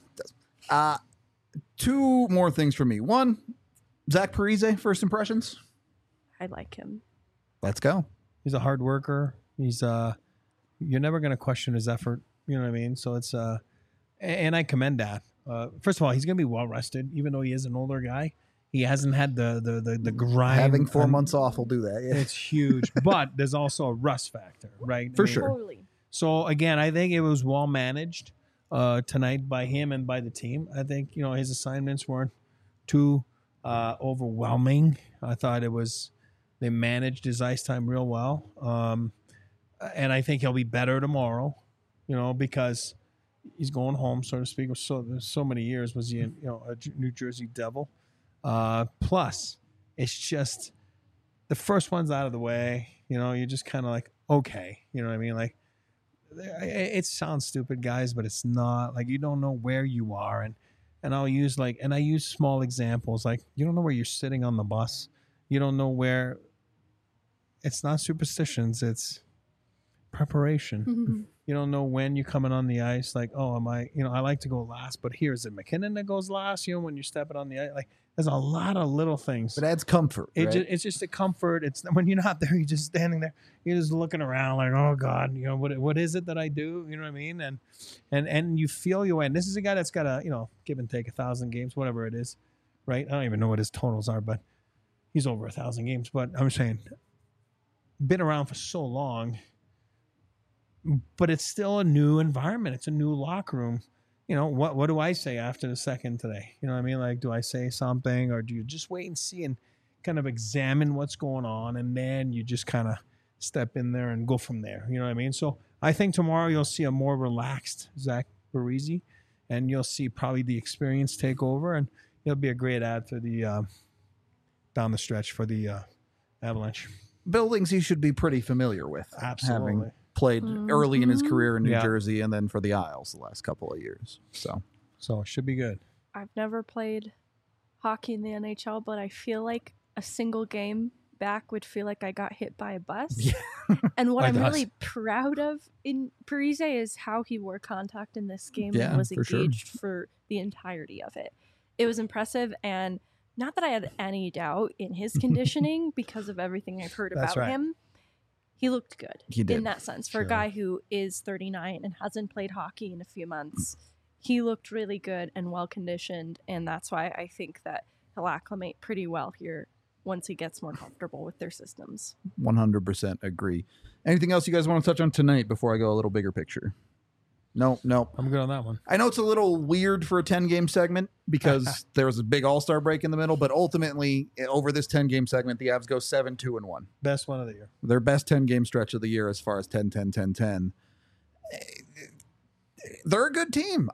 2 more things for me. 1, Zach Parise, first impressions. I like him. Let's go. He's a hard worker. He's you're never going to question his effort. You know what I mean? So it's and I commend that. First of all, he's going to be well rested, even though he is an older guy. He hasn't had the grind. Having 4 months off will do that. Yeah. It's huge, but there's also a rust factor, right? For sure. Totally. So again, I think it was well managed tonight by him and by the team. I think his assignments weren't too overwhelming. I thought they managed his ice time real well, and I think he'll be better tomorrow. Because he's going home, so to speak. So many years was he a New Jersey Devil. Plus, it's just the first one's out of the way. You're just kind of like, okay, you know what I mean, like. It sounds stupid, guys, but it's not. Like, you don't know where you are. And and I use small examples. Like, you don't know where you're sitting on the bus. You don't know where. It's not superstitions. It's preparation. You don't know when you're coming on the ice. Like, oh, am I? I like to go last, but here, is it McKinnon that goes last? When you're stepping on the ice, like, there's a lot of little things. It adds comfort. Right? It's just a comfort. It's when you're not there, you're just standing there. You're just looking around, like, oh God, what is it that I do? You know what I mean? And you feel your way. And this is a guy that's got give and take 1,000 games, whatever it is, right? I don't even know what his totals are, but he's over 1,000 games. But I'm saying, been around for so long, but it's still a new environment. It's a new locker room. What do I say after the second today? You know what I mean? Like, do I say something, or do you just wait and see and kind of examine what's going on, and then you just kind of step in there and go from there? You know what I mean? So I think tomorrow you'll see a more relaxed Zach Parise, and you'll see probably the experience take over, and it'll be a great ad for the down the stretch for the Avalanche. Buildings he should be pretty familiar with. Absolutely. Having played early in his career in New Jersey and then for the Isles the last couple of years. So it should be good. I've never played hockey in the NHL, but I feel like a single game back would feel like I got hit by a bus. Yeah. And what I'm really proud of in Parise is how he wore contact in this game and was engaged for the entirety of it. It was impressive, and not that I had any doubt in his conditioning because of everything I've heard about him. He looked good in that sense. For a guy who is 39 and hasn't played hockey in a few months, he looked really good and well-conditioned, and that's why I think that he'll acclimate pretty well here once he gets more comfortable with their systems. 100% agree. Anything else you guys want to touch on tonight before I go a little bigger picture? No. I'm good on that one. I know it's a little weird for a 10-game segment because there was a big all-star break in the middle, but ultimately, over this 10-game segment, the Avs go 7-2-1. Best one of the year. Their best 10-game stretch of the year as far as 10-10-10-10. They're a good team.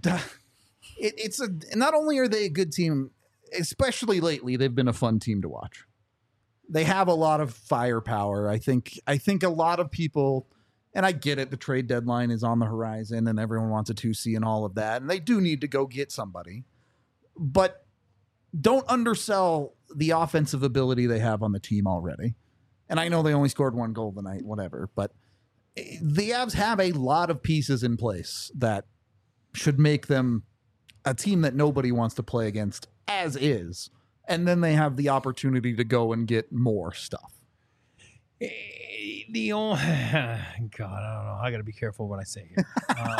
Not only are they a good team, especially lately, they've been a fun team to watch. They have a lot of firepower. I think a lot of people... And I get it, the trade deadline is on the horizon and everyone wants a 2C and all of that. And they do need to go get somebody. But don't undersell the offensive ability they have on the team already. And I know they only scored 1 goal tonight, whatever. But the Avs have a lot of pieces in place that should make them a team that nobody wants to play against as is. And then they have the opportunity to go and get more stuff. The only God, I don't know. I got to be careful what I say here.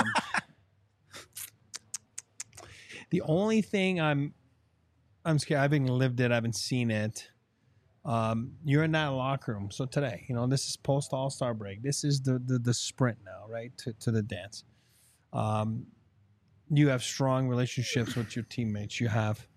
The only thing I'm scared. I haven't lived it. I haven't seen it. You're in that locker room. So today, this is post All-Star break. This is the sprint now, right? To the dance. You have strong relationships with your teammates. You have,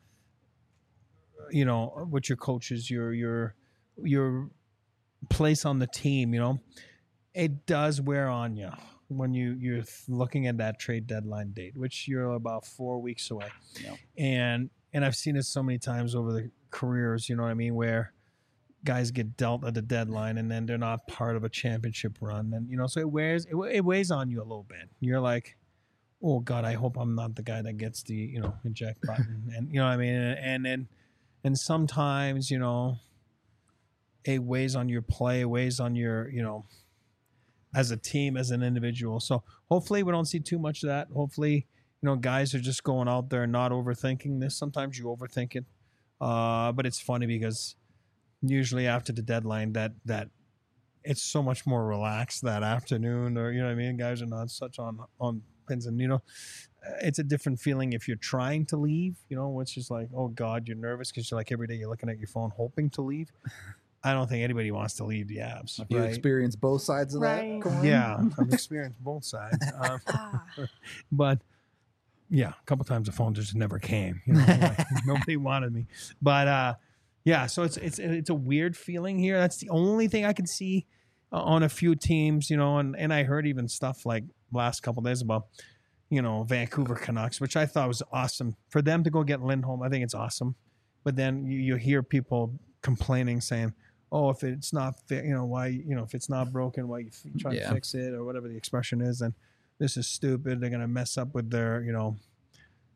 with your coaches. Your place on the team, it does wear on you when you're looking at that trade deadline date, which you're about 4 weeks away. Yeah. And I've seen it so many times over the careers, you know what I mean, where guys get dealt at the deadline and then they're not part of a championship run. And, so it weighs on you a little bit. You're like, oh God, I hope I'm not the guy that gets the, eject button. And, you know what I mean? And sometimes, it weighs on your play, it weighs on your, as a team, as an individual. So hopefully we don't see too much of that. Hopefully, guys are just going out there and not overthinking this. Sometimes you overthink it. But it's funny because usually after the deadline that it's so much more relaxed that afternoon, or, you know what I mean? Guys are not such on pins, and, it's a different feeling if you're trying to leave, which is like, oh God, you're nervous because you're like every day you're looking at your phone hoping to leave. I don't think anybody wants to leave the Avs. You experience both sides of that, Corey? Yeah, I've experienced both sides. But yeah, a couple times the phone just never came. Nobody wanted me. But so it's a weird feeling here. That's the only thing I can see on a few teams. And I heard even stuff like last couple of days about Vancouver Canucks, which I thought was awesome for them to go get Lindholm. I think it's awesome. But then you hear people complaining, saying, oh, if it's not why, if it's not broken, why you try to fix it, or whatever the expression is, and this is stupid. They're going to mess up with their,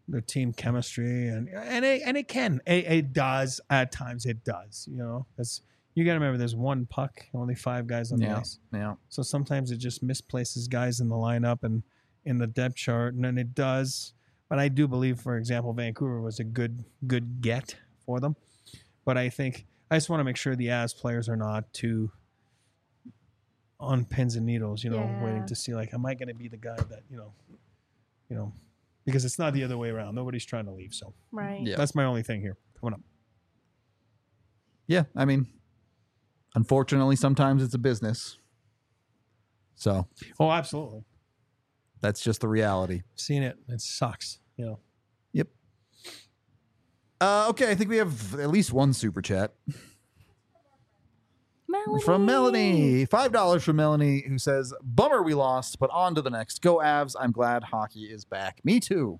the team chemistry, and it can. It does at times. It does. You know, you got to remember there's one puck, only 5 guys on the ice. Yeah. So sometimes it just misplaces guys in the lineup and in the depth chart, and then it does. But I do believe, for example, Vancouver was a good get for them. But I think I just want to make sure the Avs players are not too on pins and needles, waiting to see, like, am I going to be the guy that, because it's not the other way around. Nobody's trying to leave. So Right. Yeah. that's my only thing here coming up. Yeah, I mean, unfortunately, sometimes it's a business. So Oh, absolutely. that's just the reality. Seen it. It sucks. Yep. Okay, I think we have at least one super chat. Melanie. From Melanie. $5 from Melanie, who says, bummer we lost, but on to the next. Go Avs. I'm glad hockey is back. Me too.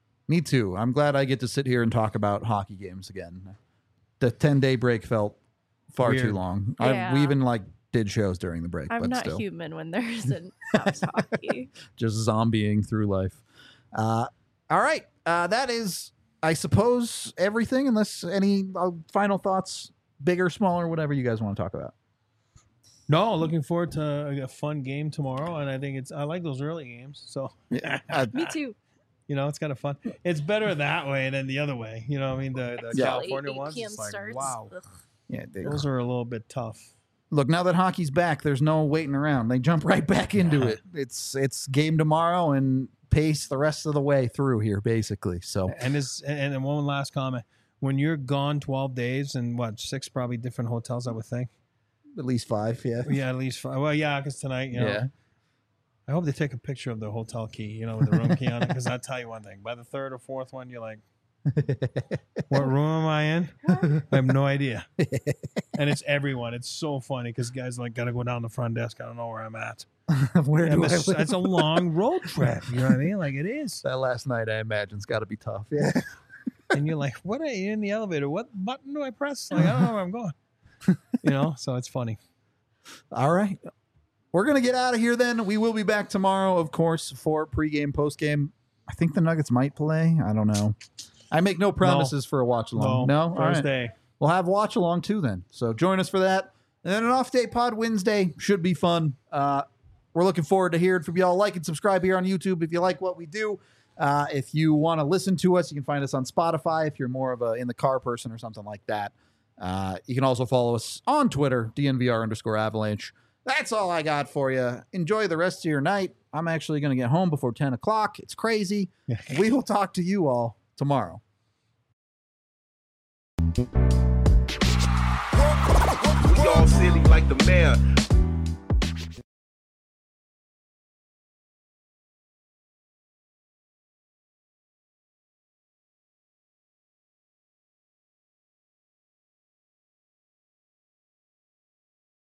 I'm glad I get to sit here and talk about hockey games again. The 10-day break felt far Weird. too long. Yeah. We even did shows during the break. I'm but not still. human when there isn't Avs hockey. Just zombieing through life. All right. That is, I suppose, everything, unless any final thoughts, big or smaller, whatever you guys want to talk about. No, looking forward to a fun game tomorrow, and I think I like those early games. So Me too. it's kind of fun. It's better that way than the other way. You know what I mean? The Yeah. California 8 ones, PM it's like, starts. wow, Ugh. Yeah, those are a little bit tough. look, now that hockey's back, there's no waiting around. They jump right back into it. It's game tomorrow and pace the rest of the way through here, basically. So And then one last comment: when you're gone 12 days and 6 probably different hotels, I would think. at least 5, yeah. Yeah, at least 5. Well, yeah, because tonight, Yeah. I hope they take a picture of the hotel key, with the room key on it. Because I'll tell you one thing: by the 3rd or 4th one, you're like, what room am I in? I have no idea. And it's everyone. It's so funny because guys got to go down the front desk. I don't know where I'm at. Where do And I live? it's a long road trip. You know what I mean? Like it is. That last night, I imagine, has got to be tough. Yeah. And you're like, what are you in the elevator? What button do I press? Like, I don't know where I'm going. So it's funny. All right. We're going to get out of here then. We will be back tomorrow, of course, for pregame, postgame. I think the Nuggets might play. I don't know. I make no promises for a watch along. No? All right. Thursday. We'll have watch along too then. So join us for that. And then an off day pod Wednesday should be fun. We're looking forward to hearing from y'all. Like and subscribe here on YouTube if you like what we do. If you want to listen to us, you can find us on Spotify if you're more of a in the car person or something like that. You can also follow us on Twitter, DNVR_Avalanche. That's all I got for you. Enjoy the rest of your night. I'm actually going to get home before 10 o'clock. It's crazy. We will talk to you all tomorrow. We all silly like the mayor.